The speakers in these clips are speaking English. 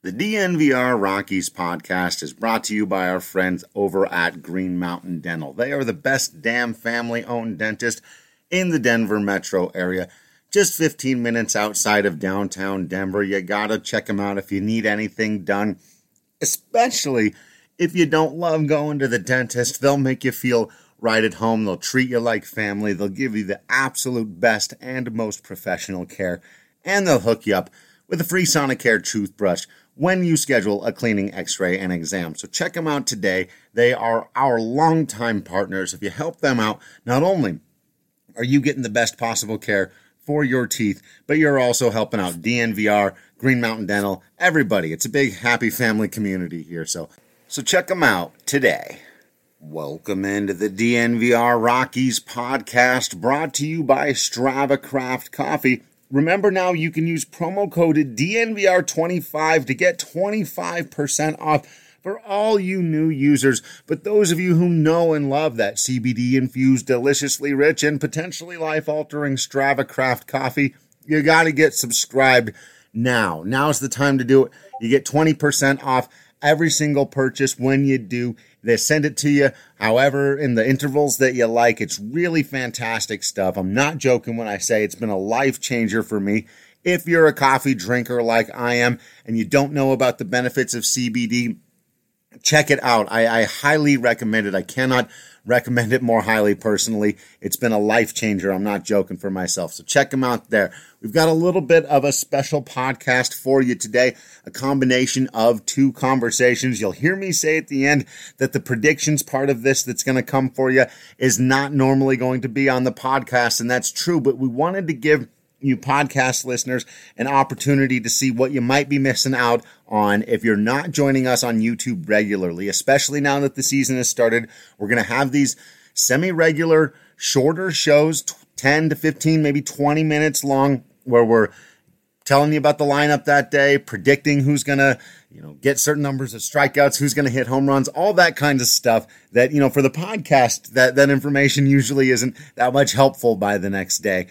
The DNVR Rockies podcast is brought to you by our friends over at Green Mountain Dental. They are the best damn family-owned dentist in the Denver metro area. Just 15 minutes outside of downtown Denver. You gotta check them out if you need anything done. Especially if you don't love going to the dentist. They'll make you feel right at home. They'll treat you like family. They'll give you the absolute best and most professional care. And they'll hook you up with a free Sonicare toothbrush when you schedule a cleaning, x-ray, and exam. So check them out today. They are our longtime partners. If you help them out, not only are you getting the best possible care for your teeth, but you're also helping out DNVR, Green Mountain Dental, everybody. It's a big, happy family community here. So check them out today. Welcome into the DNVR Rockies podcast, brought to you by Strava Craft Coffee. Remember now, you can use promo code DNVR25 to get 25% off for all you new users. But those of you who know and love that CBD-infused, deliciously rich, and potentially life-altering Strava Craft coffee, you got to get subscribed now. Now's the time to do it. You get 20% off every single purchase when you do. They send it to you, however, in the intervals that you like. It's really fantastic stuff. I'm not joking when I say it's been a life changer for me. If you're a coffee drinker like I am and you don't know about the benefits of CBD, check it out. I highly recommend it. I cannot recommend it more highly personally. It's been a life changer. I'm not joking for myself. So check them out there. We've got a little bit of a special podcast for you today, a combination of two conversations. You'll hear me say at the end that the predictions part of this that's going to come for you is not normally going to be on the podcast, and that's true, but we wanted to give you podcast listeners an opportunity to see what you might be missing out on if you're not joining us on YouTube regularly, especially now that the season has started. We're going to have these semi-regular, shorter shows, 10 to 15, maybe 20 minutes long, where we're telling you about the lineup that day, predicting who's going to, get certain numbers of strikeouts, who's going to hit home runs, all that kind of stuff that, for the podcast, that information usually isn't that much helpful by the next day.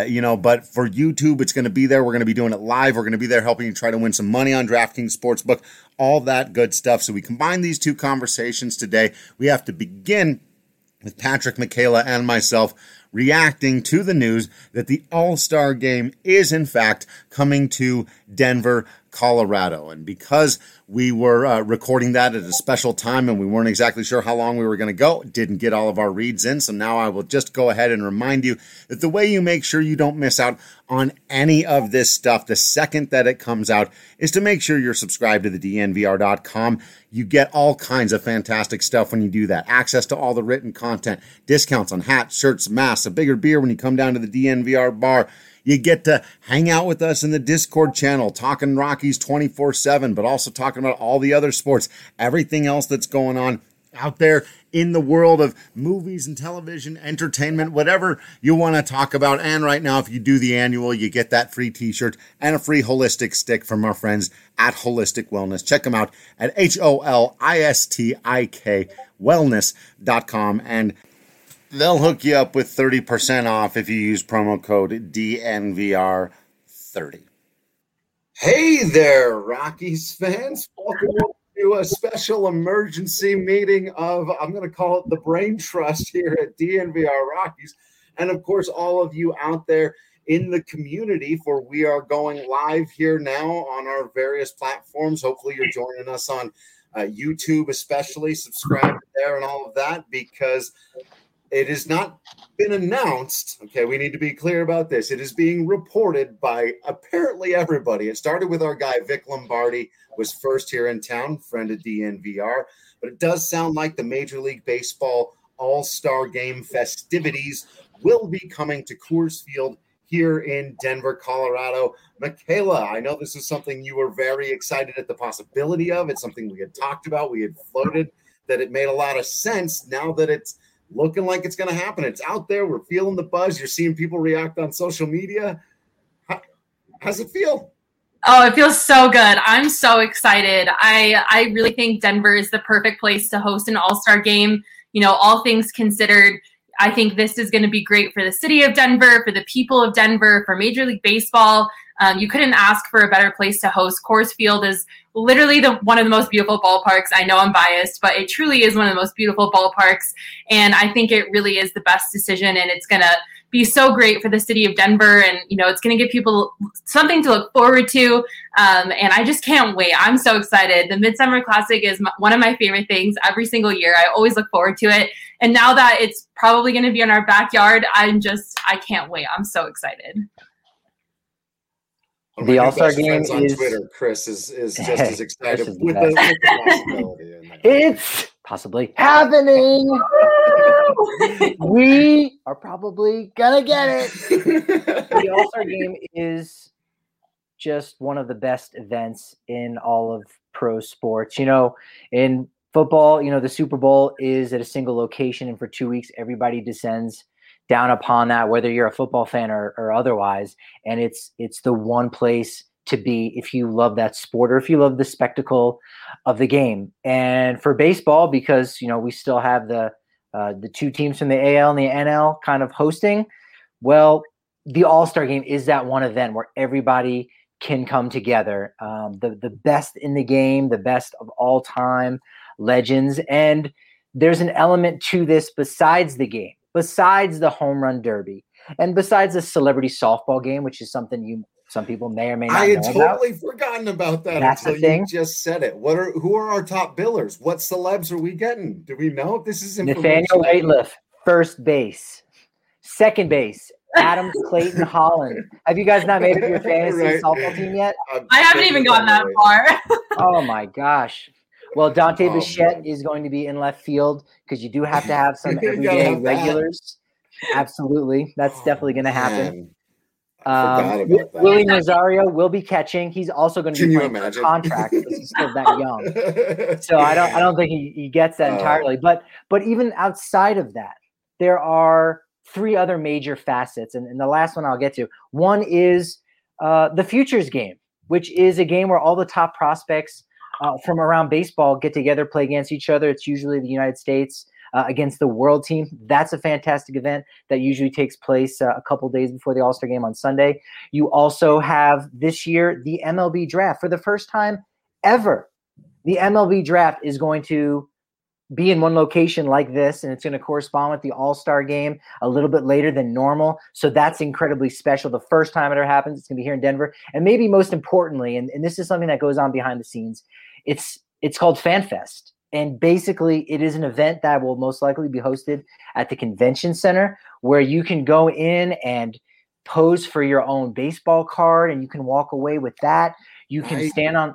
But for YouTube, it's going to be there. We're going to be doing it live. We're going to be there helping you try to win some money on DraftKings Sportsbook, all that good stuff. So we combine these two conversations today. We have to begin with Patrick Michaela and myself reacting to the news that the All-Star Game is, in fact, coming to Denver, Colorado. And because we were recording that at a special time and we weren't exactly sure how long we were going to go, didn't get all of our reads in, so now I will just go ahead and remind you that the way you make sure you don't miss out on any of this stuff the second that it comes out is to make sure you're subscribed to the DNVR.com. You get all kinds of fantastic stuff when you do that. Access to all the written content, discounts on hats, shirts, masks, a bigger beer when you come down to the DNVR bar. You get to hang out with us in the Discord channel, talking Rockies 24/7, but also talking about all the other sports, everything else that's going on out there in the world of movies and television, entertainment, whatever you want to talk about. And right now, if you do the annual, you get that free t-shirt and a free holistic stick from our friends at Holistic Wellness. Check them out at HOLISTIK wellness.com, and they'll hook you up with 30% off if you use promo code DNVR30. Hey there, Rockies fans. Welcome to a special emergency meeting of, I'm going to call it the Brain Trust here at DNVR Rockies. And of course, all of you out there in the community, for we are going live here now on our various platforms. Hopefully you're joining us on YouTube, especially. Subscribe there and all of that, because it has not been announced. Okay, we need to be clear about this. It is being reported by apparently everybody. It started with our guy, Vic Lombardi, was first here in town, friend of DNVR. But it does sound like the Major League Baseball All-Star Game festivities will be coming to Coors Field here in Denver, Colorado. Michaela, I know this is something you were very excited at the possibility of. It's something we had talked about. We had floated that it made a lot of sense now that it's looking like it's going to happen. It's out there. We're feeling the buzz. You're seeing people react on social media. How's it feel? Oh, it feels so good. I'm so excited. I really think Denver is the perfect place to host an all-star game. All things considered, I think this is going to be great for the city of Denver, for the people of Denver, for Major League Baseball. You couldn't ask for a better place to host. Coors Field is literally one of the most beautiful ballparks. I know I'm biased, but it truly is one of the most beautiful ballparks. And I think it really is the best decision, and it's going to be so great for the city of Denver. And, it's going to give people something to look forward to. And I just can't wait. I'm so excited. The Midsummer Classic is one of my favorite things every single year. I always look forward to it. And now that it's probably going to be in our backyard, I can't wait. I'm so excited. The All-Star game on Twitter. Chris is just as excited with the possibility. It's possibly happening. We are probably gonna get it. The All-Star game is just one of the best events in all of pro sports. In football, the Super Bowl is at a single location, and for 2 weeks, everybody descends down upon that, whether you're a football fan or otherwise. And it's the one place to be if you love that sport or if you love the spectacle of the game. And for baseball, because, we still have the two teams from the AL and the NL kind of hosting, well, the All-Star game is that one event where everybody can come together. The best in the game, the best of all time, legends. And there's an element to this besides the game, besides the home run derby, and besides the celebrity softball game, which is something some people may or may not know about. I had totally forgotten about that until you just said it. Who are our top billers? What celebs are we getting? Do we know? This is information. Nathaniel Rateliff, first base. Second base, Adam Clayton Holland. Have you guys not made it to your fantasy softball team yet? I haven't even gotten that far. Oh, my gosh. Well, Dante Bichette is going to be in left field because you do have to have some everyday regulars. Absolutely. That's definitely going to happen. Willie Nazario will be catching. He's also going to be playing for contract because he's still that young. So I don't think he gets that entirely. But even outside of that, there are three other major facets. And the last one I'll get to. One is the Futures game, which is a game where all the top prospects from around baseball get together, play against each other. It's usually the United States against the world team. That's a fantastic event that usually takes place a couple days before the All-Star game on Sunday. You also have this year the MLB draft. For the first time ever, the MLB draft is going to be in one location like this, and it's going to correspond with the All-Star game a little bit later than normal. So that's incredibly special. The first time it ever happens, it's going to be here in Denver. And maybe most importantly, and this is something that goes on behind the scenes, it's called FanFest. And basically, it is an event that will most likely be hosted at the convention center where you can go in and pose for your own baseball card, and you can walk away with that. You can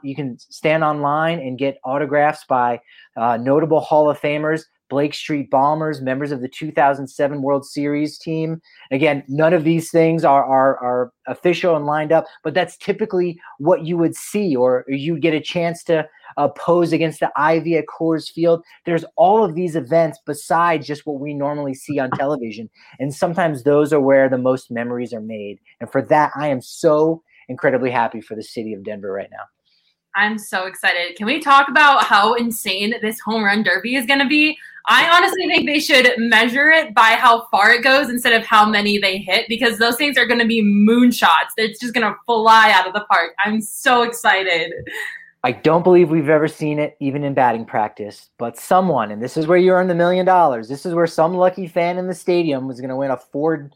stand online and get autographs by notable Hall of Famers, Blake Street Bombers, members of the 2007 World Series team. Again, none of these things are official and lined up, but that's typically what you would see, or you get a chance to pose against the Ivy at Coors Field. There's all of these events besides just what we normally see on television, and sometimes those are where the most memories are made. And for that, I am so incredibly happy for the city of Denver right now. I'm so excited. Can we talk about how insane this home run derby is going to be? I honestly think they should measure it by how far it goes instead of how many they hit, because those things are going to be moonshots. It's just going to fly out of the park. I'm so excited. I don't believe we've ever seen it even in batting practice, but someone, and this is where you earn the $1 million, this is where some lucky fan in the stadium was going to win a Ford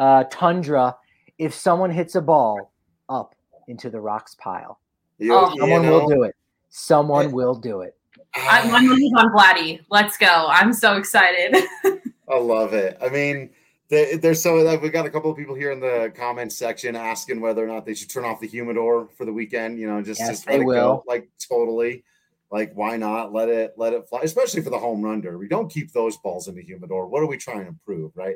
Tundra if someone hits a ball up into the rocks pile. Someone will do it. Someone will do it. My money's on Vladdy. Let's go. I'm so excited. I love it. I mean, there's we got a couple of people here in the comments section asking whether or not they should turn off the humidor for the weekend. Just let it go. Like, totally. Like, why not let it fly? Especially for the home run derby. Don't keep those balls in the humidor. What are we trying to prove, right?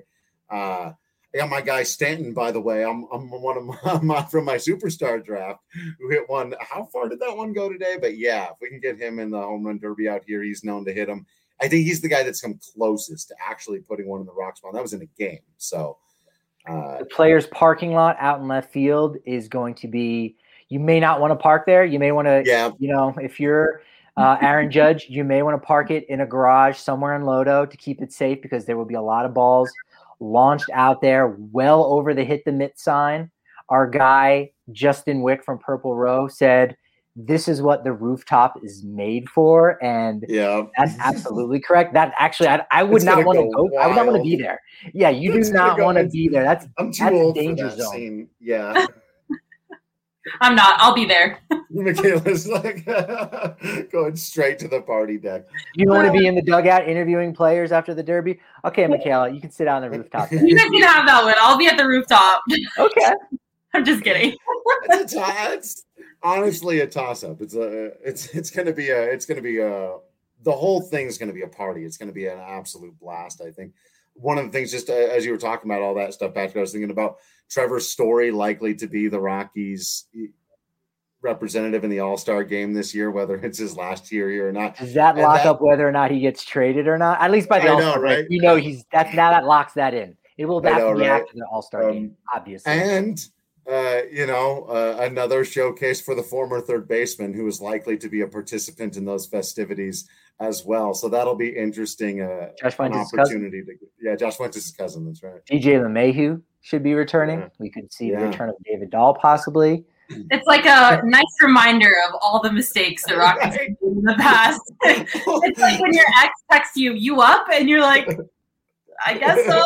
I got my guy Stanton, by the way. I'm one of my from my superstar draft who hit one. How far did that one go today? But yeah, if we can get him in the home run derby out here, he's known to hit them. I think he's the guy that's come closest to actually putting one in the rock spot. That was in a game. So the players' parking lot out in left field is going to be. You may not want to park there. You may want to. Yeah. If you're Aaron Judge, you may want to park it in a garage somewhere in Lodo to keep it safe, because there will be a lot of balls launched out there well over the hit the mitt sign. Our guy Justin Wick from Purple Row said, this is what the rooftop is made for. And that's absolutely correct. That actually, I would not want to go. Wild. I would not want to be there. Yeah, you do not want to be there. I'm too old for that zone. Scene. Yeah. I'm not. I'll be there. Michaela's like going straight to the party deck. You don't want to be in the dugout interviewing players after the Derby? Okay, Michaela, you can sit on the rooftop. You guys can have that one. I'll be at the rooftop. Okay. I'm just kidding. It's honestly a toss-up. It's gonna be the whole thing's gonna be a party. It's gonna be an absolute blast, I think. One of the things, just as you were talking about all that stuff, Patrick, I was thinking about Trevor Story likely to be the Rockies representative in the All-Star game this year, whether it's his last year here or not. Does that lock up whether or not he gets traded or not? At least by the All-Star break, right? That locks that in. It will have to be after the All-Star game, obviously. And another showcase for the former third baseman who is likely to be a participant in those festivities as well. So that'll be interesting. Josh Fuentes' opportunity Josh Fuentes' cousin. That's right. DJ LeMahieu should be returning. Yeah. We could see the return of David Dahl possibly. It's like a nice reminder of all the mistakes the Rockies did in the past. It's like when your ex texts you up, and you're like, I guess so.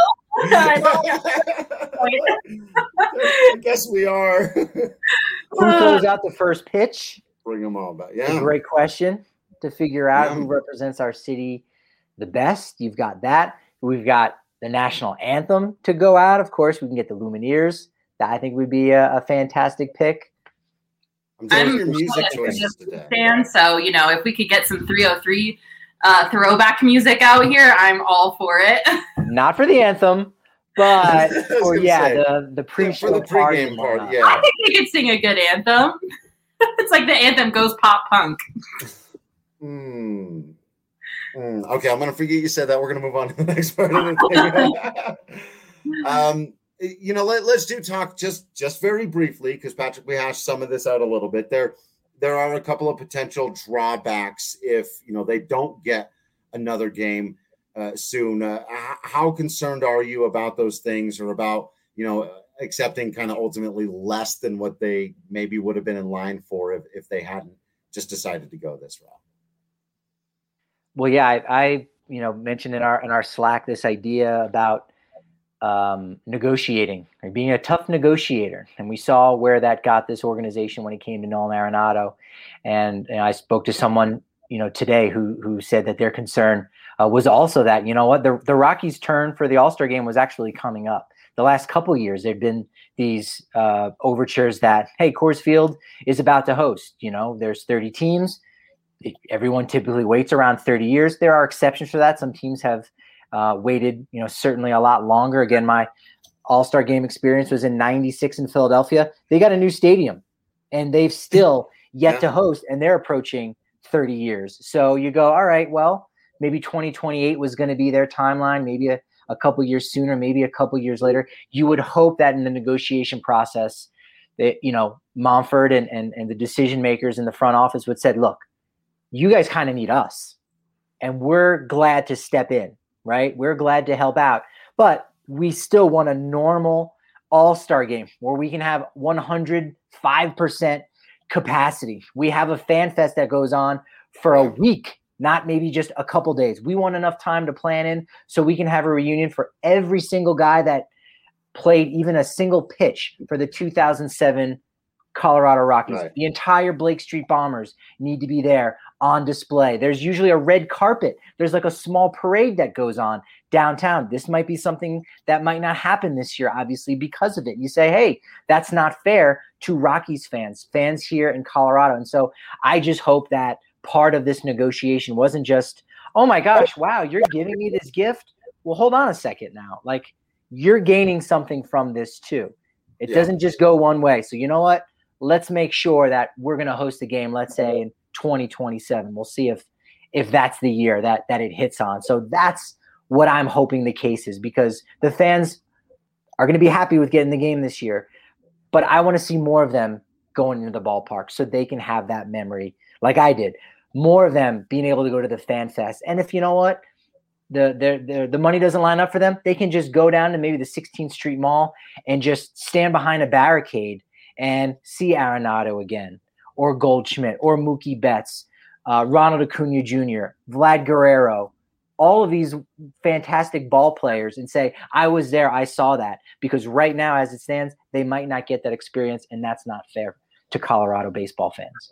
I guess we are. Who throws out the first pitch? Bring them all back. Yeah. Great question to figure out who represents our city the best. You've got that. We've got the national anthem to go out. Of course, we can get the Lumineers. That I think would be a fantastic pick. I'm your music choices today. Fan, so if we could get some 303 throwback music out here, I'm all for it. Not for the anthem, but for the pre-show for the pregame part. Yeah, I think we could sing a good anthem. It's like the anthem goes pop punk. Okay, I'm gonna forget you said that. We're gonna move on to the next part of the thing. Let's do talk just very briefly, because Patrick, we hashed some of this out a little bit. There are a couple of potential drawbacks if they don't get another game soon. How concerned are you about those things, or about accepting kind of ultimately less than what they maybe would have been in line for if they hadn't just decided to go this route? Well, yeah, I mentioned in our Slack this idea about negotiating, or being a tough negotiator. And we saw where that got this organization when it came to Nolan Arenado. And I spoke to someone, today who said that their concern was also that, the Rockies' turn for the All-Star game was actually coming up. The last couple of years, there've been these overtures that, hey, Coors Field is about to host. There's 30 teams. Everyone typically waits around 30 years. There are exceptions for that. Some teams have waited, certainly a lot longer. Again, my All-Star game experience was in '96 in Philadelphia. They got a new stadium, and they've still yet to host, and they're approaching 30 years. So you go, all right, well, maybe 2028 was going to be their timeline, maybe a couple years sooner, maybe a couple years later. You would hope that in the negotiation process that, Monfort and the decision makers in the front office would said, look, you guys kind of need us, and we're glad to step in. Right? We're glad to help out, but we still want a normal All-Star game where we can have 105% capacity. We have a fan fest that goes on for a week, not maybe just a couple days. We want enough time to plan in so we can have a reunion for every single guy that played even a single pitch for the 2007 Colorado Rockies. Right. The entire Blake Street Bombers need to be there on display. There's usually a red carpet. There's like a small parade that goes on downtown. This might be something that might not happen this year, obviously, because of it. You say, hey, that's not fair to Rockies fans here in Colorado. And so I just hope that part of this negotiation wasn't just, oh my gosh, wow, you're giving me this gift. Well, hold on a second now. Like, you're gaining something from this too. It doesn't just go one way. So you know what? Let's make sure that we're going to host a game, let's say in 2027. We'll see if that's the year that it hits on. So that's what I'm hoping the case is, because the fans are going to be happy with getting the game this year. But I want to see more of them going into the ballpark so they can have that memory like I did. More of them being able to go to the Fan Fest. And if you know what, the money doesn't line up for them, they can just go down to maybe the 16th Street Mall and just stand behind a barricade and see Arenado again, or Goldschmidt, or Mookie Betts, Ronald Acuna Jr., Vlad Guerrero, all of these fantastic ball players, and say, I was there, I saw that. Because right now, as it stands, they might not get that experience, and that's not fair to Colorado baseball fans.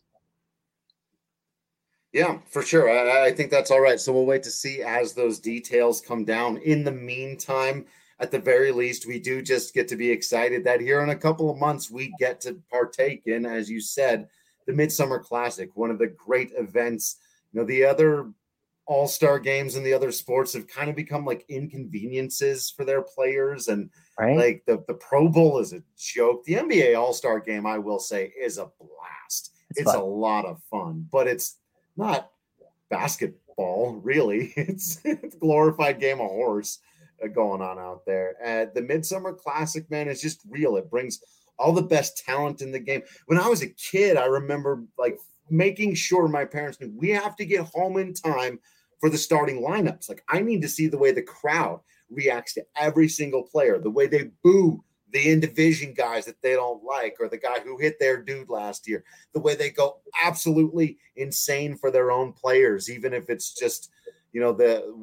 Yeah, for sure. I think that's all right. So we'll wait to see as those details come down. In the meantime, at the very least, we do just get to be excited that here in a couple of months, we get to partake in, as you said, the Midsummer Classic, one of the great events. You know, the other all-star games and the other sports have kind of become like inconveniences for their players. And like the Pro Bowl is a joke. The NBA All-Star game, I will say, is a blast. It's a lot of fun, but it's not basketball, really. It's a glorified game of horse going on out there. The Midsummer Classic, man, is just real. It brings all the best talent in the game. When I was a kid, I remember like making sure my parents knew we have to get home in time for the starting lineups. Like, I need to see the way the crowd reacts to every single player, the way they boo the in-division guys that they don't like, or the guy who hit their dude last year, the way they go absolutely insane for their own players, even if it's just, you know,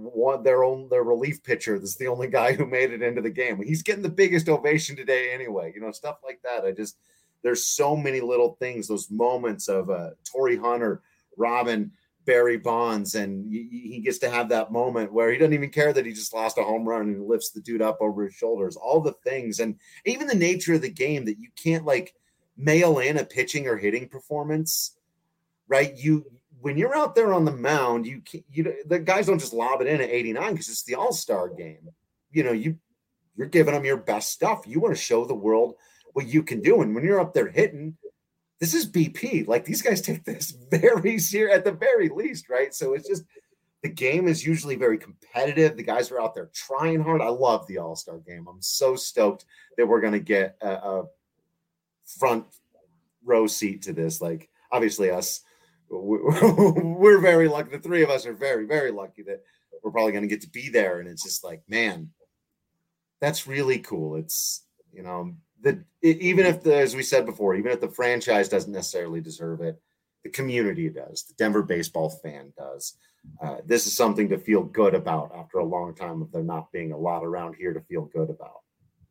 their relief pitcher that's the only guy who made it into the game. He's getting the biggest ovation today anyway, you know, stuff like that. There's so many little things, those moments of Torrey Hunter, Robin, Barry Bonds, and he gets to have that moment where he doesn't even care that he just lost a home run and he lifts the dude up over his shoulders, all the things. And even the nature of the game that you can't like mail in a pitching or hitting performance, right? When you're out there on the mound, the guys don't just lob it in at 89 because it's the all-star game. You know, you're giving them your best stuff. You want to show the world what you can do. And when you're up there hitting, this is BP. Like, these guys take this very serious at the very least, right? So it's just, the game is usually very competitive. The guys are out there trying hard. I love the All-Star game. I'm so stoked that we're going to get a front row seat to this. Like, obviously us, we're very lucky. The three of us are very, very lucky that we're probably going to get to be there. And it's just like, man, that's really cool. It's, you know, even if as we said before, even if the franchise doesn't necessarily deserve it, the community does. The Denver baseball fan does. This is something to feel good about after a long time of there not being a lot around here to feel good about.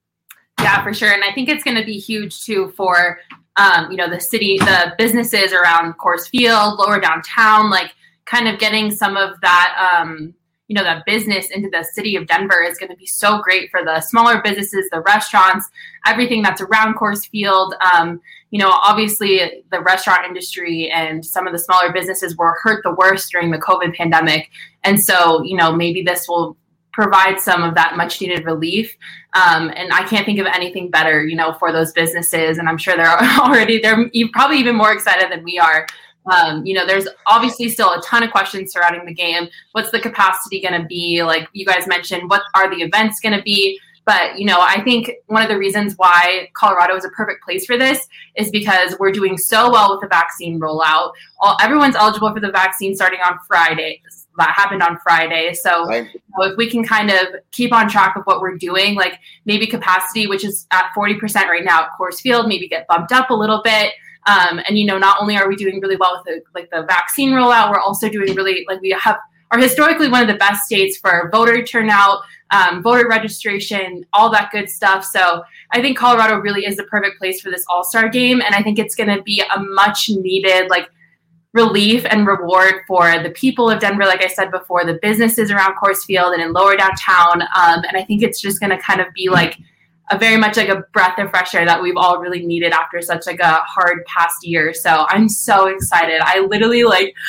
Yeah, for sure. And I think it's going to be huge too for, you know, the city, the businesses around Coors Field, lower downtown, like kind of getting some of that, you know, that business into the city of Denver is going to be so great for the smaller businesses, the restaurants, everything that's around Coors Field. You know, obviously the restaurant industry and some of the smaller businesses were hurt the worst during the COVID pandemic. And so, you know, maybe this will provide some of that much needed relief. And I can't think of anything better, you know, for those businesses. And I'm sure they're probably even more excited than we are. You know, there's obviously still a ton of questions surrounding the game. What's the capacity going to be? Like you guys mentioned, what are the events going to be? But, you know, I think one of the reasons why Colorado is a perfect place for this is because we're doing so well with the vaccine rollout. Everyone's eligible for the vaccine starting on Friday. That happened on Friday. So right. You know, if we can kind of keep on track of what we're doing, like maybe capacity, which is at 40% right now at Coors Field, maybe get bumped up a little bit. And, you know, not only are we doing really well with the vaccine rollout, we're also doing really, like, we are historically one of the best states for voter turnout, voter registration, all that good stuff. So I think Colorado really is the perfect place for this all-star game. And I think it's going to be a much needed, like, relief and reward for the people of Denver, like I said before, the businesses around Coors Field and in lower downtown. And I think it's just going to kind of be like a very much like a breath of fresh air that we've all really needed after such like a hard past year. So I'm so excited. I literally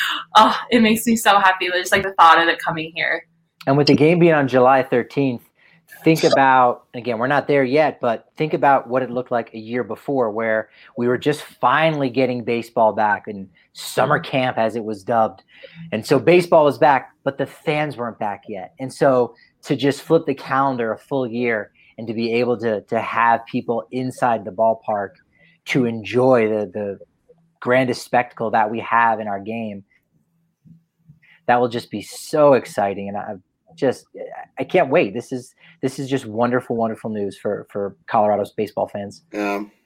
it makes me so happy. Just like the thought of it coming here. And with the game being on July 13th, think about, again, we're not there yet, but think about what it looked like a year before where we were just finally getting baseball back in summer camp, as it was dubbed. And so baseball was back, but the fans weren't back yet. And so to just flip the calendar a full year and to be able to have people inside the ballpark to enjoy the grandest spectacle that we have in our game, that will just be so exciting. And I can't wait. This is just wonderful, wonderful news for Colorado's baseball fans.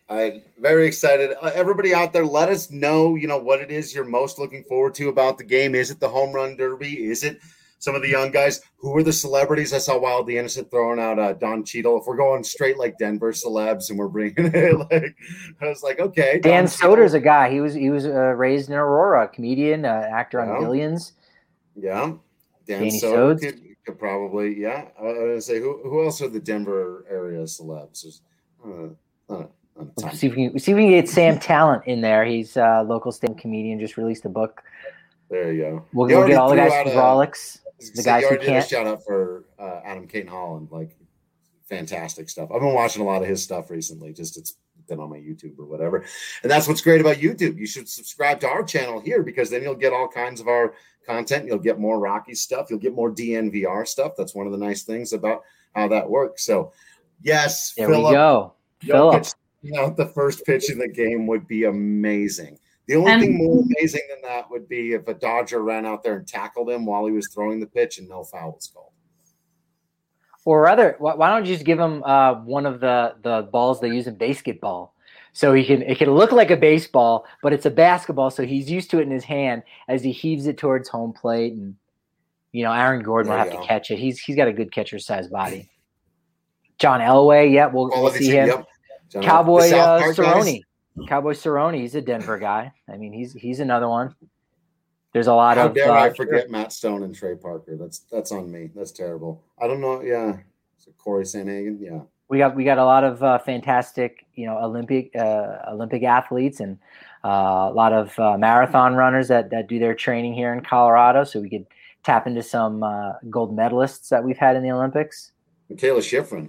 I'm very excited. Everybody out there, let us know, what it is you're most looking forward to about the game. Is it the home run derby? Is it some of the young guys? Who are the celebrities? I saw Wild the Innocent throwing out Don Cheadle. If we're going straight like Denver celebs and we're bringing it, I was like, okay. Dan Soder's a guy. He was raised in Aurora, comedian, actor on Billions. Yeah. Dan Soder could probably, yeah. I was going to say, who else are the Denver area celebs? See if we can get Sam Talent in there. He's a local stand comedian, just released a book. There you go. We'll get all the guys from Frolics. The guys who can't. A shout out for Adam Caton Holland, like fantastic stuff. I've been watching a lot of his stuff recently. Just it's been on my YouTube or whatever, and that's what's great about YouTube. You should subscribe to our channel here because then you'll get all kinds of our content. You'll get more Rocky stuff. You'll get more DNVR stuff. That's one of the nice things about how that works. So, yes, there we go. Philip. The first pitch in the game would be amazing. The only thing more amazing than that would be if a Dodger ran out there and tackled him while he was throwing the pitch and no foul was called. Or rather, why don't you just give him one of the balls they use in basketball? So it can look like a baseball, but it's a basketball, so he's used to it in his hand as he heaves it towards home plate. And, Aaron Gordon will have to catch it. He's got a good catcher-sized body. John Elway, we'll see him. Yep. Cowboy Cerrone. Cowboy Cerrone, he's a Denver guy. I mean, he's another one. There's a lot How of. dare I forget Matt Stone and Trey Parker? That's on me. That's terrible. I don't know. Yeah, so Corey Sanhagen. Yeah, we got a lot of fantastic, Olympic athletes and a lot of marathon runners that do their training here in Colorado. So we could tap into some gold medalists that we've had in the Olympics. Michaela Schifrin.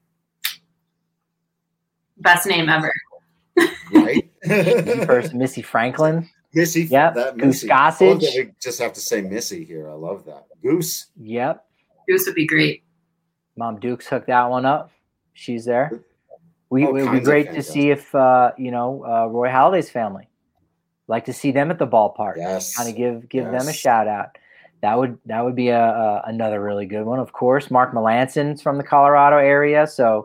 Best name ever. Right? First, Missy Franklin. Missy. Yep. Goose Gossage. We just have to say Missy here. I love that. Goose. Yep. Goose would be great. Mom Dukes hooked that one up. She's there. It would be great to see if, Roy Halladay's family. Like to see them at the ballpark. Yes. Kind of give them a shout out. That would be another really good one. Of course, Mark Melanson's from the Colorado area, so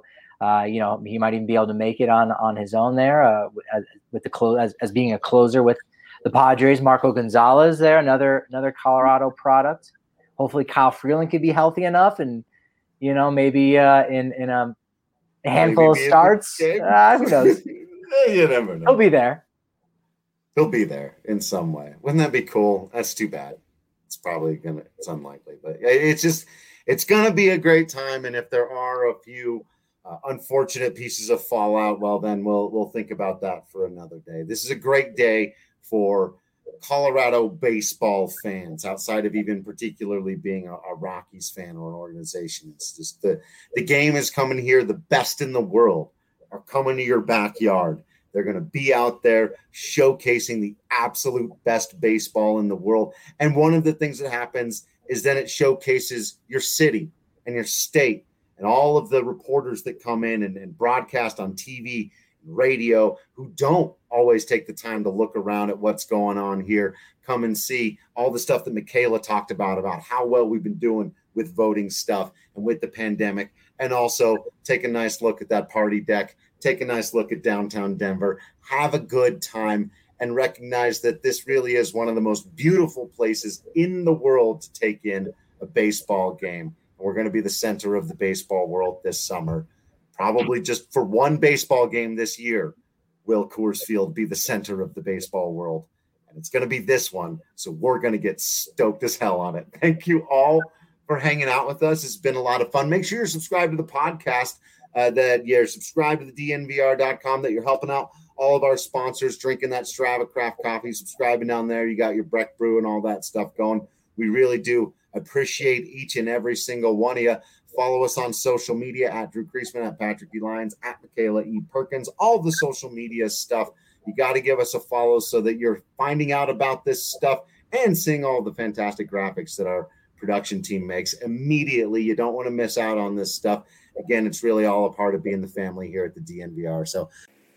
he might even be able to make it on his own there with the as being a closer with the Padres. Marco Gonzalez there, another Colorado product. Hopefully, Kyle Freeland could be healthy enough, and maybe in a handful of starts. Who knows? You never know. He'll be there. He'll be there in some way. Wouldn't that be cool? That's too bad. It's unlikely, but it's gonna be a great time. And if there are a few unfortunate pieces of fallout, well, then we'll think about that for another day. This is a great day for Colorado baseball fans, outside of even particularly being a Rockies fan or an organization. It's just the game is coming here. The best in the world are coming to your backyard. They're going to be out there showcasing the absolute best baseball in the world. And one of the things that happens is then it showcases your city and your state and all of the reporters that come in and broadcast on TV, radio, who don't always take the time to look around at what's going on here, come and see all the stuff that Michaela talked about how well we've been doing with voting stuff and with the pandemic, and also take a nice look at that party deck, take a nice look at downtown Denver, have a good time, and recognize that this really is one of the most beautiful places in the world to take in a baseball game. We're going to be the center of the baseball world this summer. Probably just for one baseball game this year, will Coors Field be the center of the baseball world. And it's going to be this one, so we're going to get stoked as hell on it. Thank you all for hanging out with us. It's been a lot of fun. Make sure you're subscribed to the podcast, that you're subscribed to the DNVR.com, that you're helping out all of our sponsors, drinking that Strava Craft coffee, subscribing down there. You got your Breck Brew and all that stuff going. We really do appreciate each and every single one of you. Follow us on social media at Drew Creasman, at Patrick E. Lyons, at Michaela E. Perkins, all the social media stuff. You got to give us a follow so that you're finding out about this stuff and seeing all the fantastic graphics that our production team makes immediately. You don't want to miss out on this stuff. Again, it's really all a part of being the family here at the DNVR. So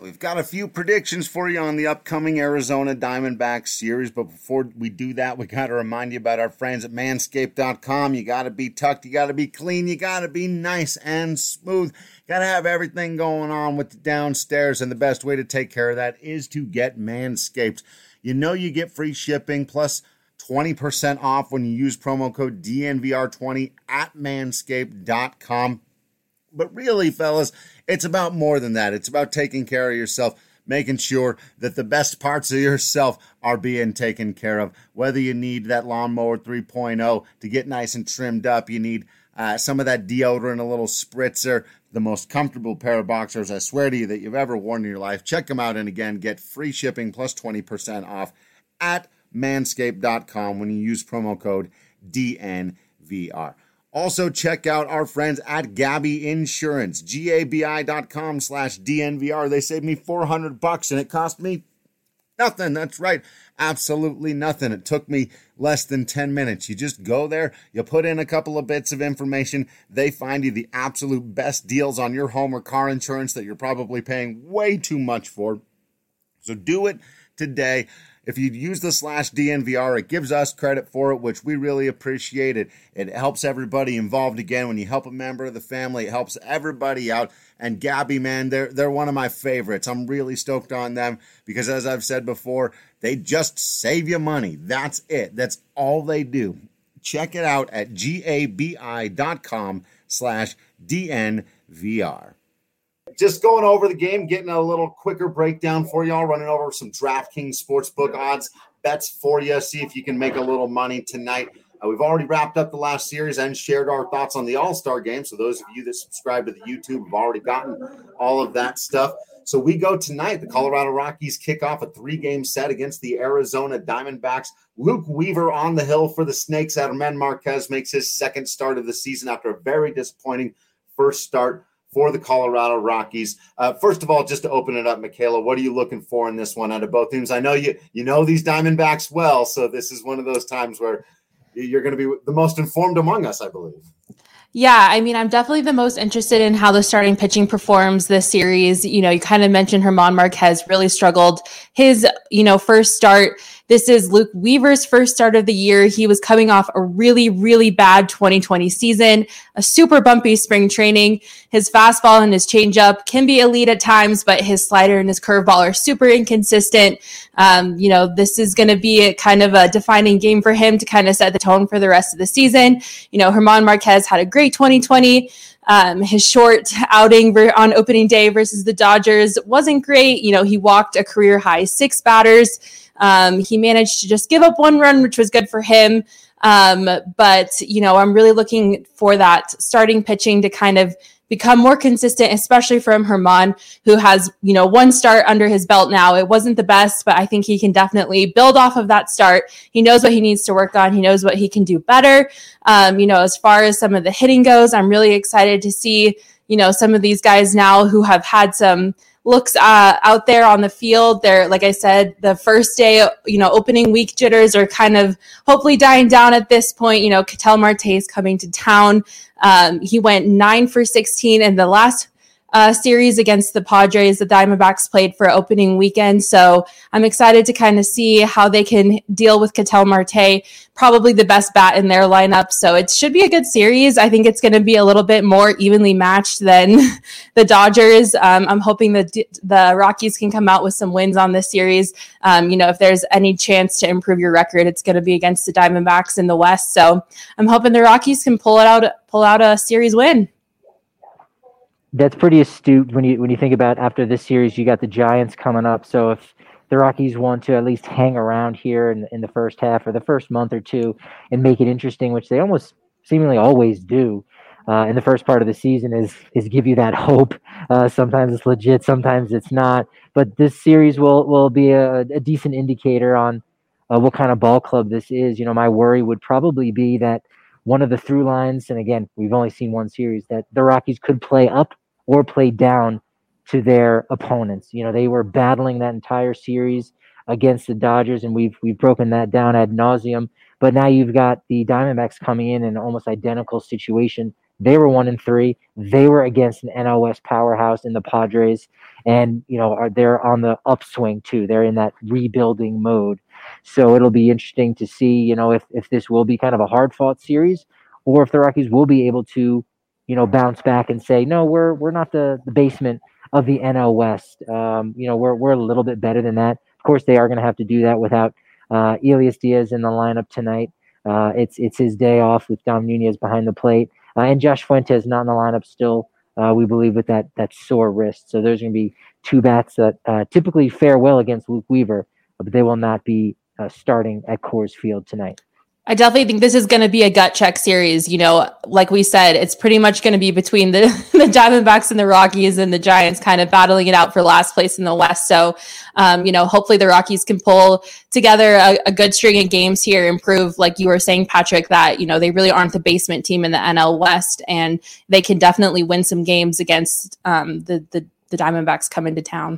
We've got a few predictions for you on the upcoming Arizona Diamondbacks series, but before we do that, we got to remind you about our friends at Manscaped.com. You got to be tucked, you got to be clean, you got to be nice and smooth. You got to have everything going on with the downstairs, and the best way to take care of that is to get Manscaped. You know you get free shipping plus 20% off when you use promo code DNVR20 at Manscaped.com. But really, fellas, it's about more than that. It's about taking care of yourself, making sure that the best parts of yourself are being taken care of. Whether you need that lawnmower 3.0 to get nice and trimmed up, you need some of that deodorant, a little spritzer, the most comfortable pair of boxers, I swear to you, that you've ever worn in your life. Check them out, and again, get free shipping plus 20% off at Manscaped.com when you use promo code DNVR. Also, check out our friends at Gabi Insurance, GABI.com/DNVR. They saved me $400 and it cost me nothing. That's right. Absolutely nothing. It took me less than 10 minutes. You just go there, you put in a couple of bits of information. They find you the absolute best deals on your home or car insurance that you're probably paying way too much for. So do it today. If you use the /DNVR, it gives us credit for it, which we really appreciate it. It helps everybody involved. Again, when you help a member of the family, it helps everybody out. And Gabi, man, they're one of my favorites. I'm really stoked on them because, as I've said before, they just save you money. That's it. That's all they do. Check it out at GABI.com/DNVR. Just going over the game, getting a little quicker breakdown for y'all, running over some DraftKings Sportsbook odds, bets for you, see if you can make a little money tonight. We've already wrapped up the last series and shared our thoughts on the All-Star game, so those of you that subscribe to the YouTube have already gotten all of that stuff. So we go tonight. The Colorado Rockies kick off a 3-game set against the Arizona Diamondbacks. Luke Weaver on the hill for the Snakes. German Marquez makes his second start of the season after a very disappointing first start for the Colorado Rockies. First of all, just to open it up, Michaela, what are you looking for in this one out of both teams? I know you know these Diamondbacks well, so this is one of those times where you're going to be the most informed among us, I believe. Yeah, I mean, I'm definitely the most interested in how the starting pitching performs this series. You know, you kind of mentioned German Marquez really struggled his, first start. This is Luke Weaver's first start of the year. He was coming off a really, really bad 2020 season, a super bumpy spring training. His fastball and his changeup can be elite at times, but his slider and his curveball are super inconsistent. This is going to be a kind of a defining game for him to kind of set the tone for the rest of the season. German Marquez had a great 2020. His short outing on opening day versus the Dodgers wasn't great. He walked a career high 6 batters. He managed to just give up 1 run, which was good for him. But I'm really looking for that starting pitching to kind of become more consistent, especially from German, who has, 1 start under his belt now. It wasn't the best, but I think he can definitely build off of that start. He knows what he needs to work on. He knows what he can do better. As far as some of the hitting goes, I'm really excited to see, some of these guys now who have had some looks out there on the field. They're, like I said, the first day, opening week jitters are kind of hopefully dying down at this point. Ketel Marte is coming to town. He went 9 for 16 in the last series against the Padres. The Diamondbacks played for opening weekend. So I'm excited to kind of see how they can deal with Ketel Marte, probably the best bat in their lineup. So it should be a good series. I think it's going to be a little bit more evenly matched than the Dodgers. I'm hoping that the Rockies can come out with some wins on this series. If there's any chance to improve your record, it's going to be against the Diamondbacks in the West. So I'm hoping the Rockies can pull out a series win. That's pretty astute when you think about after this series, you got the Giants coming up. So if the Rockies want to at least hang around here in the first half or the first month or two and make it interesting, which they almost seemingly always do in the first part of the season, is give you that hope. Sometimes it's legit, sometimes it's not. But this series will be a decent indicator on what kind of ball club this is. My worry would probably be that one of the through lines, and again, we've only seen one series, that the Rockies could play up or play down to their opponents. They were battling that entire series against the Dodgers, and we've broken that down ad nauseum. But now you've got the Diamondbacks coming in an almost identical situation They were 1-3. They were against an NL West powerhouse in the Padres, and they're on the upswing too. They're in that rebuilding mode, so it'll be interesting to see, if this will be kind of a hard fought series, or if the Rockies will be able to, bounce back and say, no, we're not the basement of the NL West. We're a little bit better than that. Of course, they are going to have to do that without Elias Diaz in the lineup tonight. It's his day off with Dom Nunez behind the plate. And Josh Fuentes not in the lineup still, we believe, with that sore wrist. So there's going to be two bats that typically fare well against Luke Weaver, but they will not be starting at Coors Field tonight. I definitely think this is going to be a gut check series. Like we said, it's pretty much going to be between the Diamondbacks and the Rockies, and the Giants kind of battling it out for last place in the West. So, hopefully the Rockies can pull together a good string of games here, improve, like you were saying, Patrick, that, they really aren't the basement team in the NL West, and they can definitely win some games against the Diamondbacks coming to town.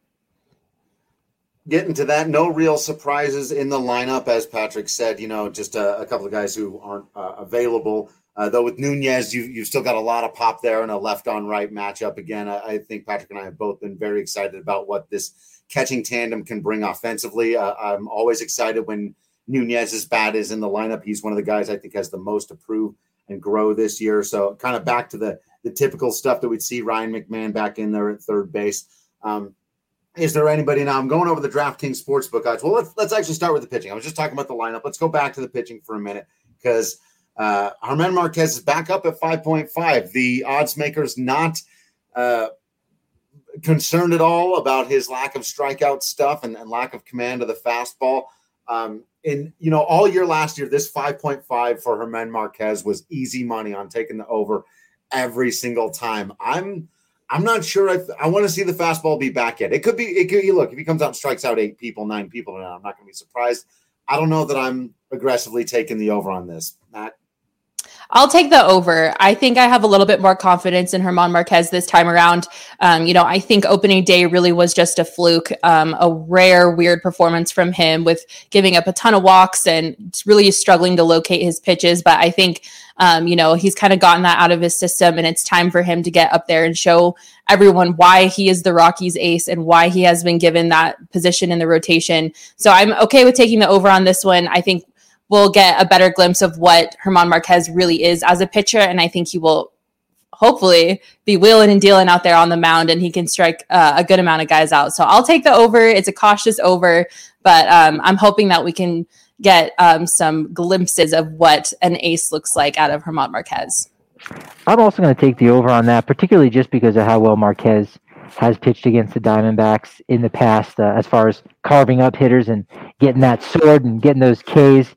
Getting to that, no real surprises in the lineup, as Patrick said. Just a couple of guys who aren't available. Though with Nunez, you've still got a lot of pop there and a left-on-right matchup. Again, I think Patrick and I have both been very excited about what this catching tandem can bring offensively. I'm always excited when Nunez's bat is in the lineup. He's one of the guys I think has the most to prove and grow this year. So kind of back to the typical stuff that we'd see. Ryan McMahon back in there at third base. Is there anybody now? I'm going over the DraftKings Sportsbook odds. Well, let's actually start with the pitching. I was just talking about the lineup. Let's go back to the pitching for a minute, because Germán Marquez is back up at 5.5. The odds makers not concerned at all about his lack of strikeout stuff and lack of command of the fastball. All year last year, this 5.5 for Germán Marquez was easy money on taking the over every single time. I'm not sure I want to see the fastball be back yet. It could look, if he comes out and strikes out 9 people now, I'm not going to be surprised. I don't know that I'm aggressively taking the over on this. Matt? I'll take the over. I think I have a little bit more confidence in Germán Marquez this time around. I think opening day really was just a fluke, a rare, weird performance from him with giving up a ton of walks and really struggling to locate his pitches. But I think, he's kind of gotten that out of his system, and it's time for him to get up there and show everyone why he is the Rockies ace and why he has been given that position in the rotation. So I'm okay with taking the over on this one. I think we'll get a better glimpse of what Germán Marquez really is as a pitcher, and I think he will hopefully be wheeling and dealing out there on the mound, and he can strike a good amount of guys out. So I'll take the over. It's a cautious over, but I'm hoping that we can get some glimpses of what an ace looks like out of Germán Marquez. I'm also going to take the over on that, particularly just because of how well Marquez has pitched against the Diamondbacks in the past, as far as carving up hitters and getting that sword and getting those Ks.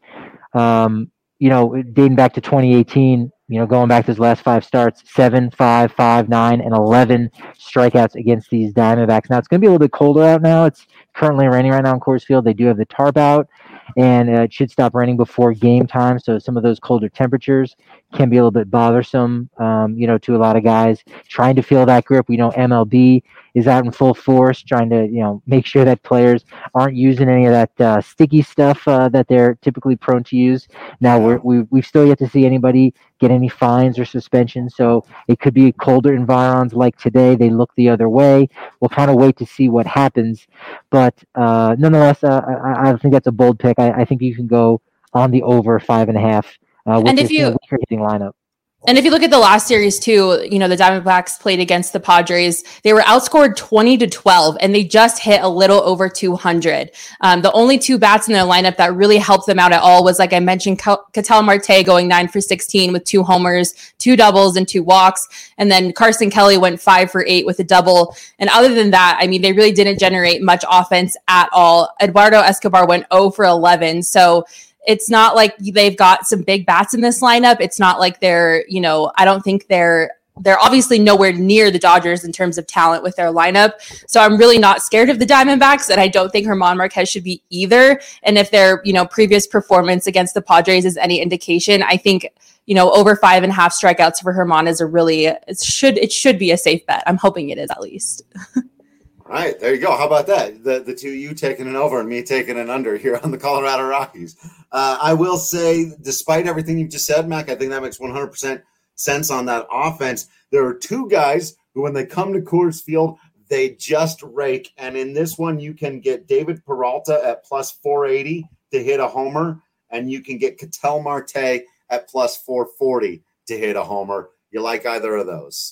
Dating back to 2018, going back to his last 5 starts, 7, 5, 5, 9, and 11 strikeouts against these Diamondbacks. Now, it's going to be a little bit colder out now. It's currently raining right now in Coors Field. They do have the tarp out, and it should stop raining before game time. So some of those colder temperatures can be a little bit bothersome, to a lot of guys trying to feel that grip. We know MLB is out in full force, trying to, make sure that players aren't using any of that sticky stuff that they're typically prone to use. Now, we've still yet to see anybody get any fines or suspensions, so it could be colder environs like today. They look the other way. We'll kind of wait to see what happens. But nonetheless, I think that's a bold pick. I think you can go on the over 5.5 with this weaker hitting lineup. And if you look at the last series too, the Diamondbacks played against the Padres. They were outscored 20-12, and they just hit a little over 200. The only 2 bats in their lineup that really helped them out at all was, like I mentioned, Ketel Marte going 9 for 16 with 2 homers, 2 doubles, and 2 walks. And then Carson Kelly went 5 for 8 with a double. And other than that, they really didn't generate much offense at all. Eduardo Escobar went 0 for 11. So it's not like they've got some big bats in this lineup. It's not like they're, I don't think they're obviously nowhere near the Dodgers in terms of talent with their lineup. So I'm really not scared of the Diamondbacks, and I don't think Germán Marquez should be either. And if their, previous performance against the Padres is any indication, I think, over 5.5 strikeouts for Germán is it should be a safe bet. I'm hoping it is at least. All right, there you go. How about that? The two of you taking an over and me taking an under here on the Colorado Rockies. I will say, despite everything you've just said, Mac, I think that makes 100% sense on that offense. There are two guys who, when they come to Coors Field, they just rake. And in this one, you can get David Peralta at plus 480 to hit a homer, and you can get Ketel Marte at plus 440 to hit a homer. You like either of those?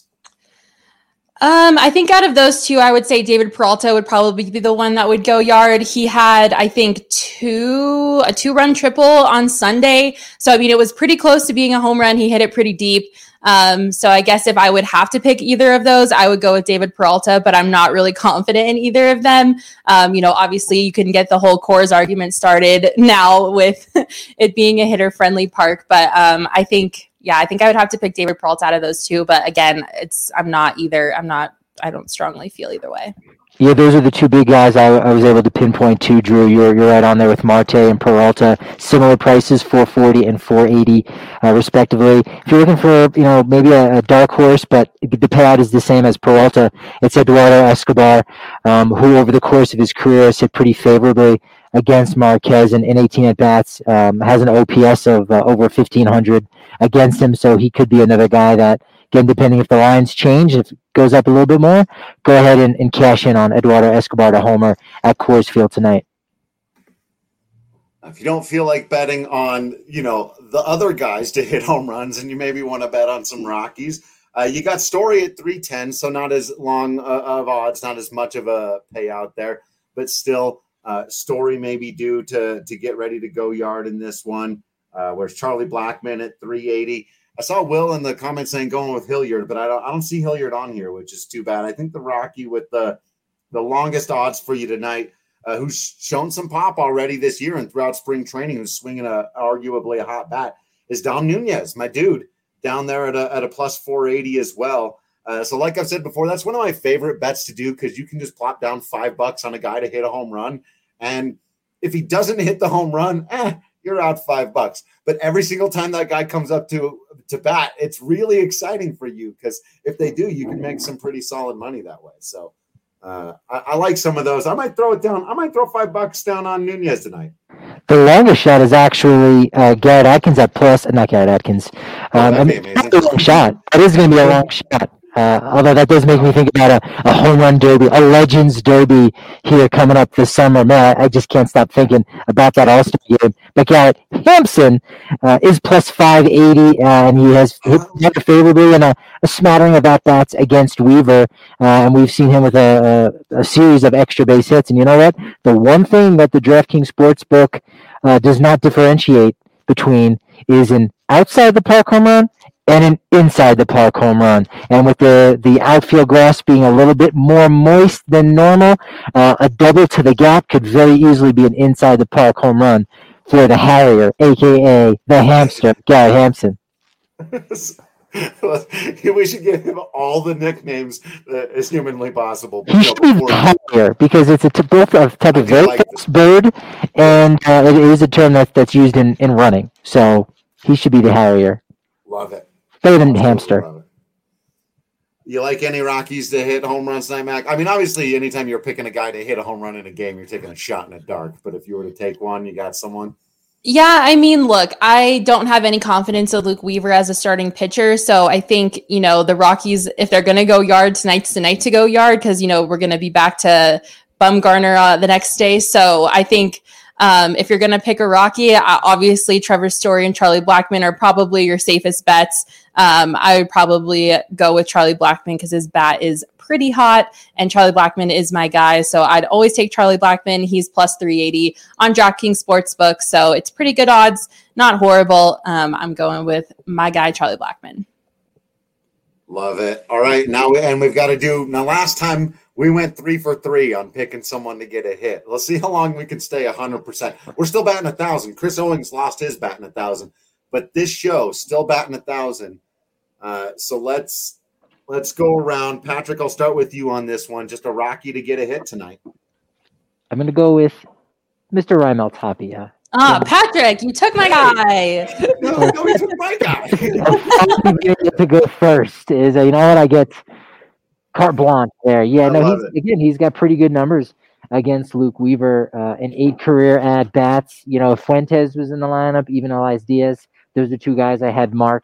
I think out of those two, I would say David Peralta would probably be the one that would go yard. He had, I think, a 2-run triple on Sunday. So, I mean, it was pretty close to being a home run. He hit it pretty deep. So I guess if I would have to pick either of those, I would go with David Peralta, but I'm not really confident in either of them. Obviously you can get the whole Coors argument started now with it being a hitter-friendly park. But I think I would have to pick David Peralta out of those two. But again, I don't strongly feel either way. Yeah, those are the two big guys I was able to pinpoint too, Drew. You're right on there with Marte and Peralta. Similar prices, 440 and 480, respectively. If you're looking for, maybe a dark horse, but the payout is the same as Peralta, it's Eduardo Escobar, who over the course of his career has hit pretty favorably against Marquez in 18 at-bats, has an OPS of over 1,500 against him, so he could be another guy that, again, depending if the lines change, if it goes up a little bit more, go ahead and cash in on Eduardo Escobar to homer at Coors Field tonight. If you don't feel like betting on, the other guys to hit home runs and you maybe want to bet on some Rockies, you got Story at 310, so not as long of odds, not as much of a payout there, but still Story may be due to get ready to go yard in this one. Where's Charlie Blackmon at 380? I saw Will in the comments saying going with Hilliard, but I don't see Hilliard on here, which is too bad. I think the Rocky with the longest odds for you tonight, who's shown some pop already this year and throughout spring training, who's swinging arguably a hot bat, is Dom Nunez, my dude, down there at a plus 480 as well. So like I've said before, that's one of my favorite bets to do because you can just plop down $5 on a guy to hit a home run. And if he doesn't hit the home run, you're out $5. But every single time that guy comes up to bat, it's really exciting for you because if they do, you can make some pretty solid money that way. So I like some of those. I might throw it down. I might throw $5 down on Nunez tonight. The longest shot is actually Garrett Atkins at plus, not Garrett Atkins. That'd be amazing. That's a long shot. It is going to be a long shot. Although that does make me think about a home run derby, a Legends derby here coming up this summer. Man, I just can't stop thinking about that All-Star game. But Garrett Hampson is plus 580, and he has hit rather favorably in a smattering of at-bats against Weaver. And we've seen him with a series of extra base hits. And you know what? The one thing that the DraftKings Sportsbook does not differentiate between is an outside the park home run and an inside the park home run. And with the outfield grass being a little bit more moist than normal, a double to the gap could very easily be an inside the park home run for the Harrier, a.k.a. the hamster, Gary Hampson. We should give him all the nicknames as humanly possible. He should be the Harrier because it's both a type of very fast bird, and it is a term that's used in running. So he should be the Harrier. Love it. Better than hamster. You like any Rockies to hit home runs tonight, Mac? I mean, obviously, anytime you're picking a guy to hit a home run in a game, you're taking a shot in the dark. But if you were to take one, you got someone? Yeah, I mean, look, I don't have any confidence of Luke Weaver as a starting pitcher. So I think, the Rockies, if they're going to go yard, tonight's the night to go yard because, we're going to be back to Bumgarner the next day. So I think if you're going to pick a Rocky, obviously Trevor Story and Charlie Blackmon are probably your safest bets. I would probably go with Charlie Blackmon because his bat is pretty hot and Charlie Blackmon is my guy. So I'd always take Charlie Blackmon. He's plus 380 on DraftKings Sportsbook. So it's pretty good odds, not horrible. I'm going with my guy, Charlie Blackmon. Love it. All right. Now we've got to do last time we went 3 for 3 on picking someone to get a hit. Let's see how long we can stay 100%. We're still batting 1,000. Chris Owings lost his batting 1,000, but this show still batting 1,000. So let's go around. Patrick, I'll start with you on this one. Just a Rocky to get a hit tonight. I'm going to go with Mr. Raimel Tapia. Patrick, you took my guy. No, he took my guy. To go first is, I get carte blanche there. Yeah, he's got pretty good numbers against Luke Weaver, and 8 career at-bats. Fuentes was in the lineup, even Elias Diaz. Those are 2 guys I had marked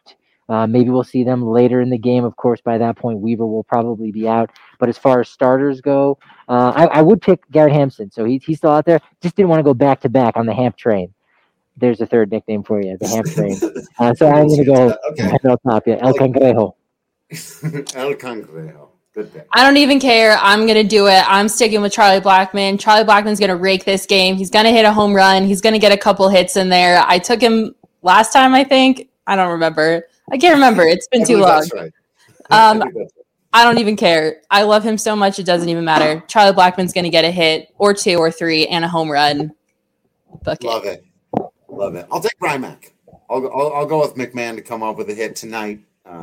Maybe we'll see them later in the game. Of course, by that point, Weaver will probably be out. But as far as starters go, I would pick Garrett Hampson. So he's still out there. Just didn't want to go back-to-back on the Hamp train. There's a third nickname for you, the Hamp train. So I'm going to go El Tapia, El Cangrejo. El Cangrejo. Good pick. I don't even care. I'm going to do it. I'm sticking with Charlie Blackmon. Charlie Blackmon's going to rake this game. He's going to hit a home run. He's going to get a couple hits in there. I took him last time, I think. I don't remember. I can't remember. It's been too long. That's right. I don't even care. I love him so much. It doesn't even matter. Charlie Blackmon's going to get a hit or 2 or 3 and a home run. Love it. I'll take Brymac. I'll go with McMahon to come up with a hit tonight.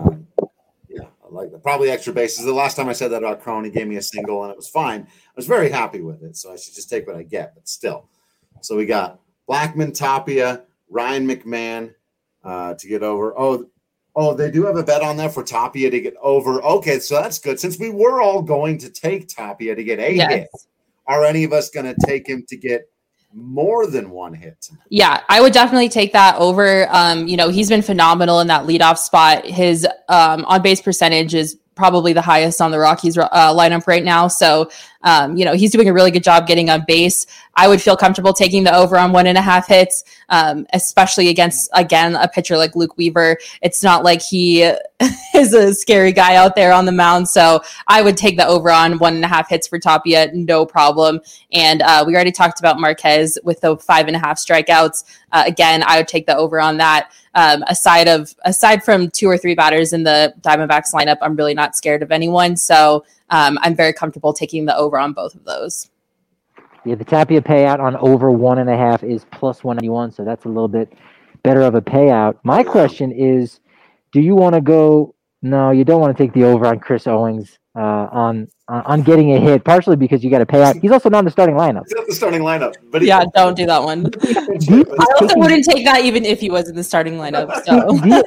I like that. Probably extra bases. The last time I said that about Cron, he gave me a single and it was fine. I was very happy with it, so I should just take what I get. But still, so we got Blackmon, Tapia, Ryan McMahon to get over. Oh, they do have a bet on that for Tapia to get over. Okay, so that's good. Since we were all going to take Tapia to get a hit, are any of us going to take him to get more than one hit tonight? Yeah, I would definitely take that over. He's been phenomenal in that leadoff spot. His on-base percentage is probably the highest on the Rockies lineup right now. So, he's doing a really good job getting on base. I would feel comfortable taking the over on 1.5 hits, especially against, again, a pitcher like Luke Weaver. It's not like he is a scary guy out there on the mound. So I would take the over on 1.5 hits for Tapia, no problem. And we already talked about Marquez with the 5.5 strikeouts. Again, I would take the over on that. Aside from 2 or 3 batters in the Diamondbacks lineup, I'm really not scared of anyone. So I'm very comfortable taking the over on both of those. Yeah, the Tapia payout on over 1.5 is plus 191, so that's a little bit better of a payout. My question is, do you want to go? No, you don't want to take the over on Chris Owings on getting a hit, partially because you got to pay out. He's also not in the starting lineup. He's not the starting lineup, but don't do that one. I also wouldn't take that even if he was in the starting lineup. So.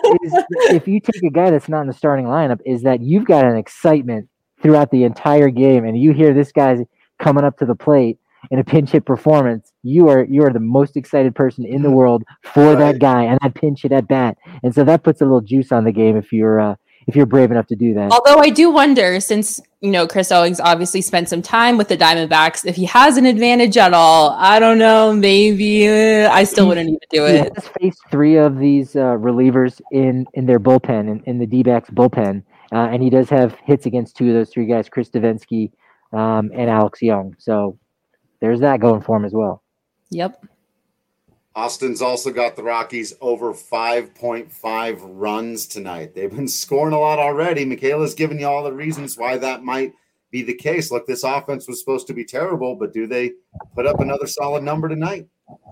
If you take a guy that's not in the starting lineup, is that you've got an excitement throughout the entire game, and you hear this guy's coming up to the plate in a pinch hit performance, you are the most excited person in the world for that guy and that pinch hit at bat, and so that puts a little juice on the game if you're brave enough to do that. Although I do wonder, since Chris Owings obviously spent some time with the Diamondbacks, if he has an advantage at all. I don't know. Maybe I still wouldn't even do it. He has faced 3 of these relievers in their bullpen, in the D-backs bullpen, and he does have hits against 2 of those 3 guys, Chris Davinsky and Alex Young. So there's that going for him as well. Yep. Austin's also got the Rockies over 5.5 runs tonight. They've been scoring a lot already. Michaela's given you all the reasons why that might be the case. Look, this offense was supposed to be terrible, but do they put up another solid number tonight?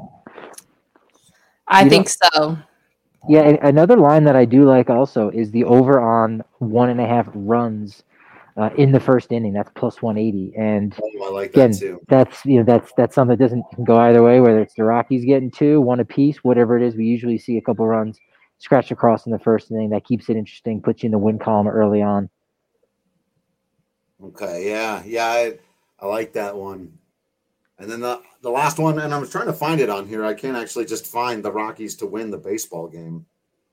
I think so. Yeah, and another line that I do like also is the over on 1.5 runs in the first inning. That's plus 180, and I like that too. That's that's something that doesn't go either way. Whether it's the Rockies getting 2, 1 apiece, whatever it is, we usually see a couple runs scratch across in the first inning. That keeps it interesting, puts you in the win column early on. Okay, yeah, I like that one. And then the last one, and I was trying to find it on here. I can't actually just find the Rockies to win the baseball game.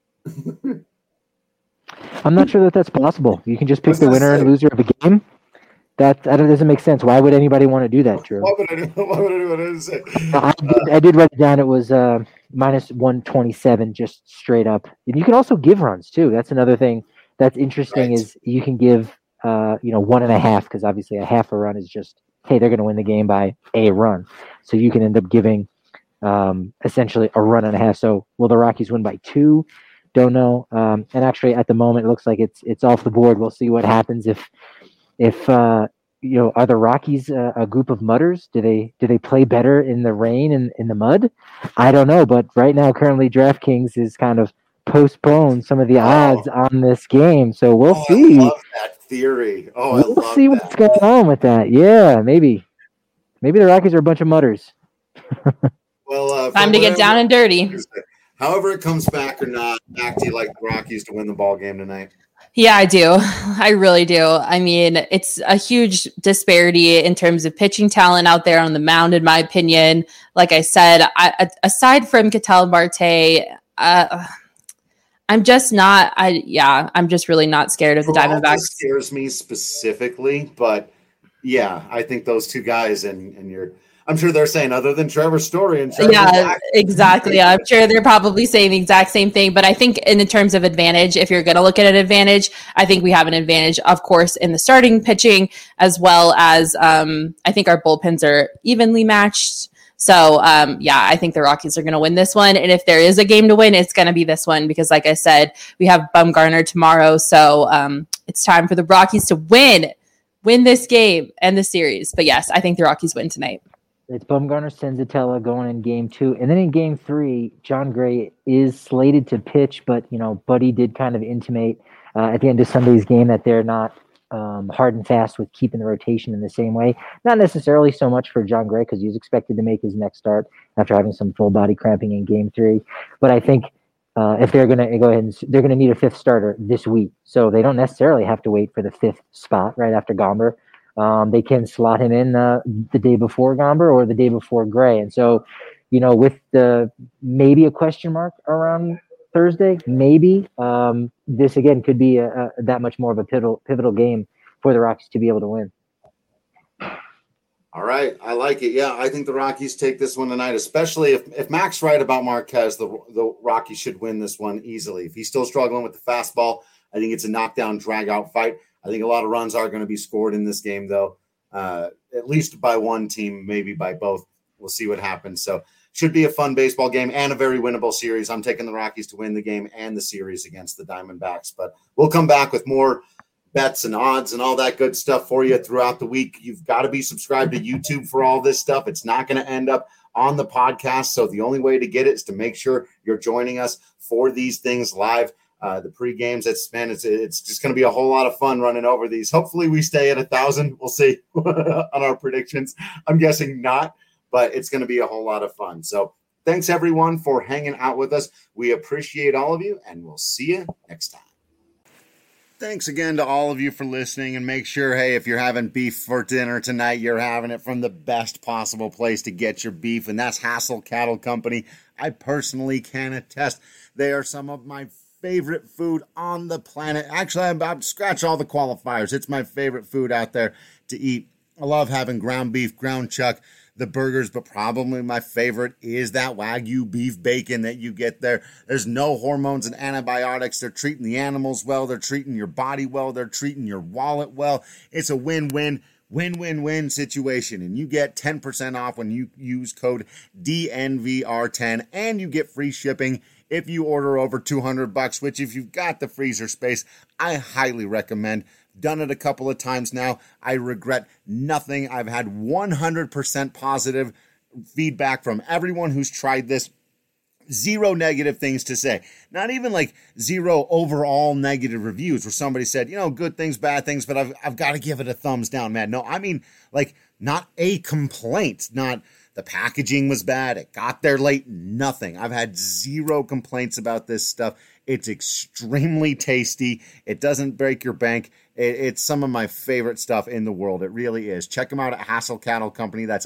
I'm not sure that's possible. You can just pick the winner and loser of a game. That doesn't make sense. Why would anybody want to do that, Drew? Why would anyone say? I did write it down. It was minus 127, just straight up. And you can also give runs too. That's another thing that's interesting. Right. Is you can give 1.5, because obviously a half a run is just, hey, they're going to win the game by a run. So you can end up giving essentially a run and a half. So will the Rockies win by 2? Don't know. And actually, at the moment, it looks like it's off the board. We'll see what happens if are the Rockies a group of mudders? Do they play better in the rain and in the mud? I don't know. But right now, currently, DraftKings is kind of postponed some of the odds on this game. So we'll see. I love that theory. We'll see what's going on with that. Yeah, maybe the Rockies are a bunch of mudders. Well, time to get down and dirty. However it comes back or not, do you like the Rockies to win the ball game tonight? Yeah, I do. I really do. I mean, it's a huge disparity in terms of pitching talent out there on the mound, in my opinion. Like I said, aside from Ketel Marte, I I'm just really not scared of the Diamondbacks. Scares me specifically, but yeah, I think those two guys and I'm sure they're saying other than Trevor Story and exactly. Yeah, I'm sure they're probably saying the exact same thing. But I think in terms of advantage, if you're going to look at an advantage, I think we have an advantage, of course, in the starting pitching, as well as I think our bullpens are evenly matched. So, I think the Rockies are going to win this one. And if there is a game to win, it's going to be this one because, like I said, we have Bumgarner tomorrow. So it's time for the Rockies to win this game and the series. But yes, I think the Rockies win tonight. It's Bumgarner, Senzatella going in game 2. And then in game 3, Jon Gray is slated to pitch, but, Buddy did kind of intimate at the end of Sunday's game that they're not hard and fast with keeping the rotation in the same way. Not necessarily so much for Jon Gray because he was expected to make his next start after having some full body cramping in game 3. But I think if they're going to go ahead and they're going to need a 5th starter this week. So they don't necessarily have to wait for the 5th spot right after Gomber. They can slot him in the day before Gomber or the day before Gray. And so, with the maybe a question mark around Thursday, maybe this again could be that much more of a pivotal game for the Rockies to be able to win. All right. I like it. Yeah, I think the Rockies take this one tonight, especially if Mac's right about Marquez, the Rockies should win this one easily. If he's still struggling with the fastball, I think it's a knockdown, drag-out fight. I think a lot of runs are going to be scored in this game, though, at least by one team, maybe by both. We'll see what happens. So should be a fun baseball game and a very winnable series. I'm taking the Rockies to win the game and the series against the Diamondbacks. But we'll come back with more bets and odds and all that good stuff for you throughout the week. You've got to be subscribed to YouTube for all this stuff. It's not going to end up on the podcast. So the only way to get it is to make sure you're joining us for these things live. The pre-games, it's just going to be a whole lot of fun running over these. Hopefully we stay at 1,000. We'll see on our predictions. I'm guessing not, but it's going to be a whole lot of fun. So thanks everyone for hanging out with us. We appreciate all of you, and we'll see you next time. Thanks again to all of you for listening, and make sure, hey, if you're having beef for dinner tonight, you're having it from the best possible place to get your beef, and that's Hassel Cattle Company. I personally can attest they are some of my favorite food on the planet. Actually, I'm about to scratch all the qualifiers. It's my favorite food out there to eat. I love having ground beef, ground chuck, the burgers, but probably my favorite is that Wagyu beef bacon that you get there. There's no hormones and antibiotics. They're treating the animals well. They're treating your body well. They're treating your wallet well. It's a win-win situation, and you get 10% off when you use code DNVR10, and you get free shipping if you order over $200, which if you've got the freezer space, I highly recommend. Done it a couple of times now. I regret nothing. I've had 100% positive feedback from everyone who's tried this. 0 negative things to say. Not even like 0 overall negative reviews where somebody said, good things, bad things, but I've got to give it a thumbs down, man. No, I mean, like, not a complaint, not the packaging was bad, it got there late, nothing. I've had 0 complaints about this stuff. It's extremely tasty. It doesn't break your bank. It's some of my favorite stuff in the world. It really is. Check them out at Hassel Cattle Company. That's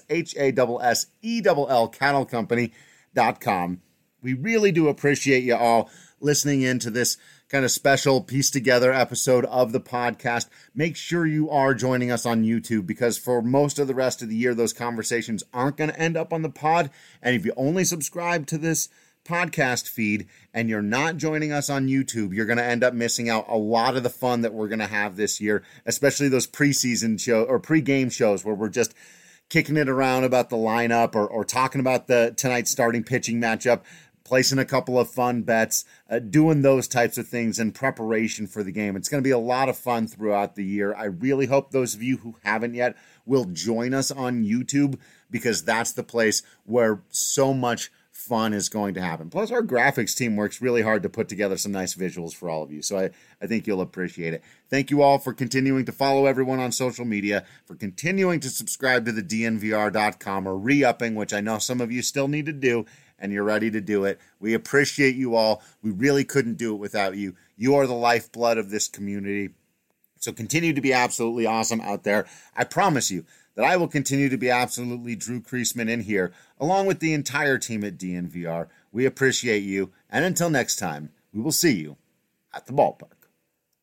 HASSELL cattlecompany.com. We really do appreciate you all listening in to this kind of special pieced together episode of the podcast. Make sure you are joining us on YouTube, because for most of the rest of the year, those conversations aren't going to end up on the pod. And if you only subscribe to this podcast feed and you're not joining us on YouTube, you're going to end up missing out a lot of the fun that we're going to have this year, especially those preseason show or pre-game shows where we're just kicking it around about the lineup or talking about tonight's starting pitching matchup, placing a couple of fun bets, doing those types of things in preparation for the game. It's going to be a lot of fun throughout the year. I really hope those of you who haven't yet will join us on YouTube, because that's the place where so much fun is going to happen. Plus, our graphics team works really hard to put together some nice visuals for all of you, so I think you'll appreciate it. Thank you all for continuing to follow everyone on social media, for continuing to subscribe to the DNVR.com or re-upping, which I know some of you still need to do, and you're ready to do it. We appreciate you all. We really couldn't do it without you. You are the lifeblood of this community. So continue to be absolutely awesome out there. I promise you that I will continue to be absolutely Drew Creasman in here, along with the entire team at DNVR. We appreciate you. And until next time, We will see you at the ballpark.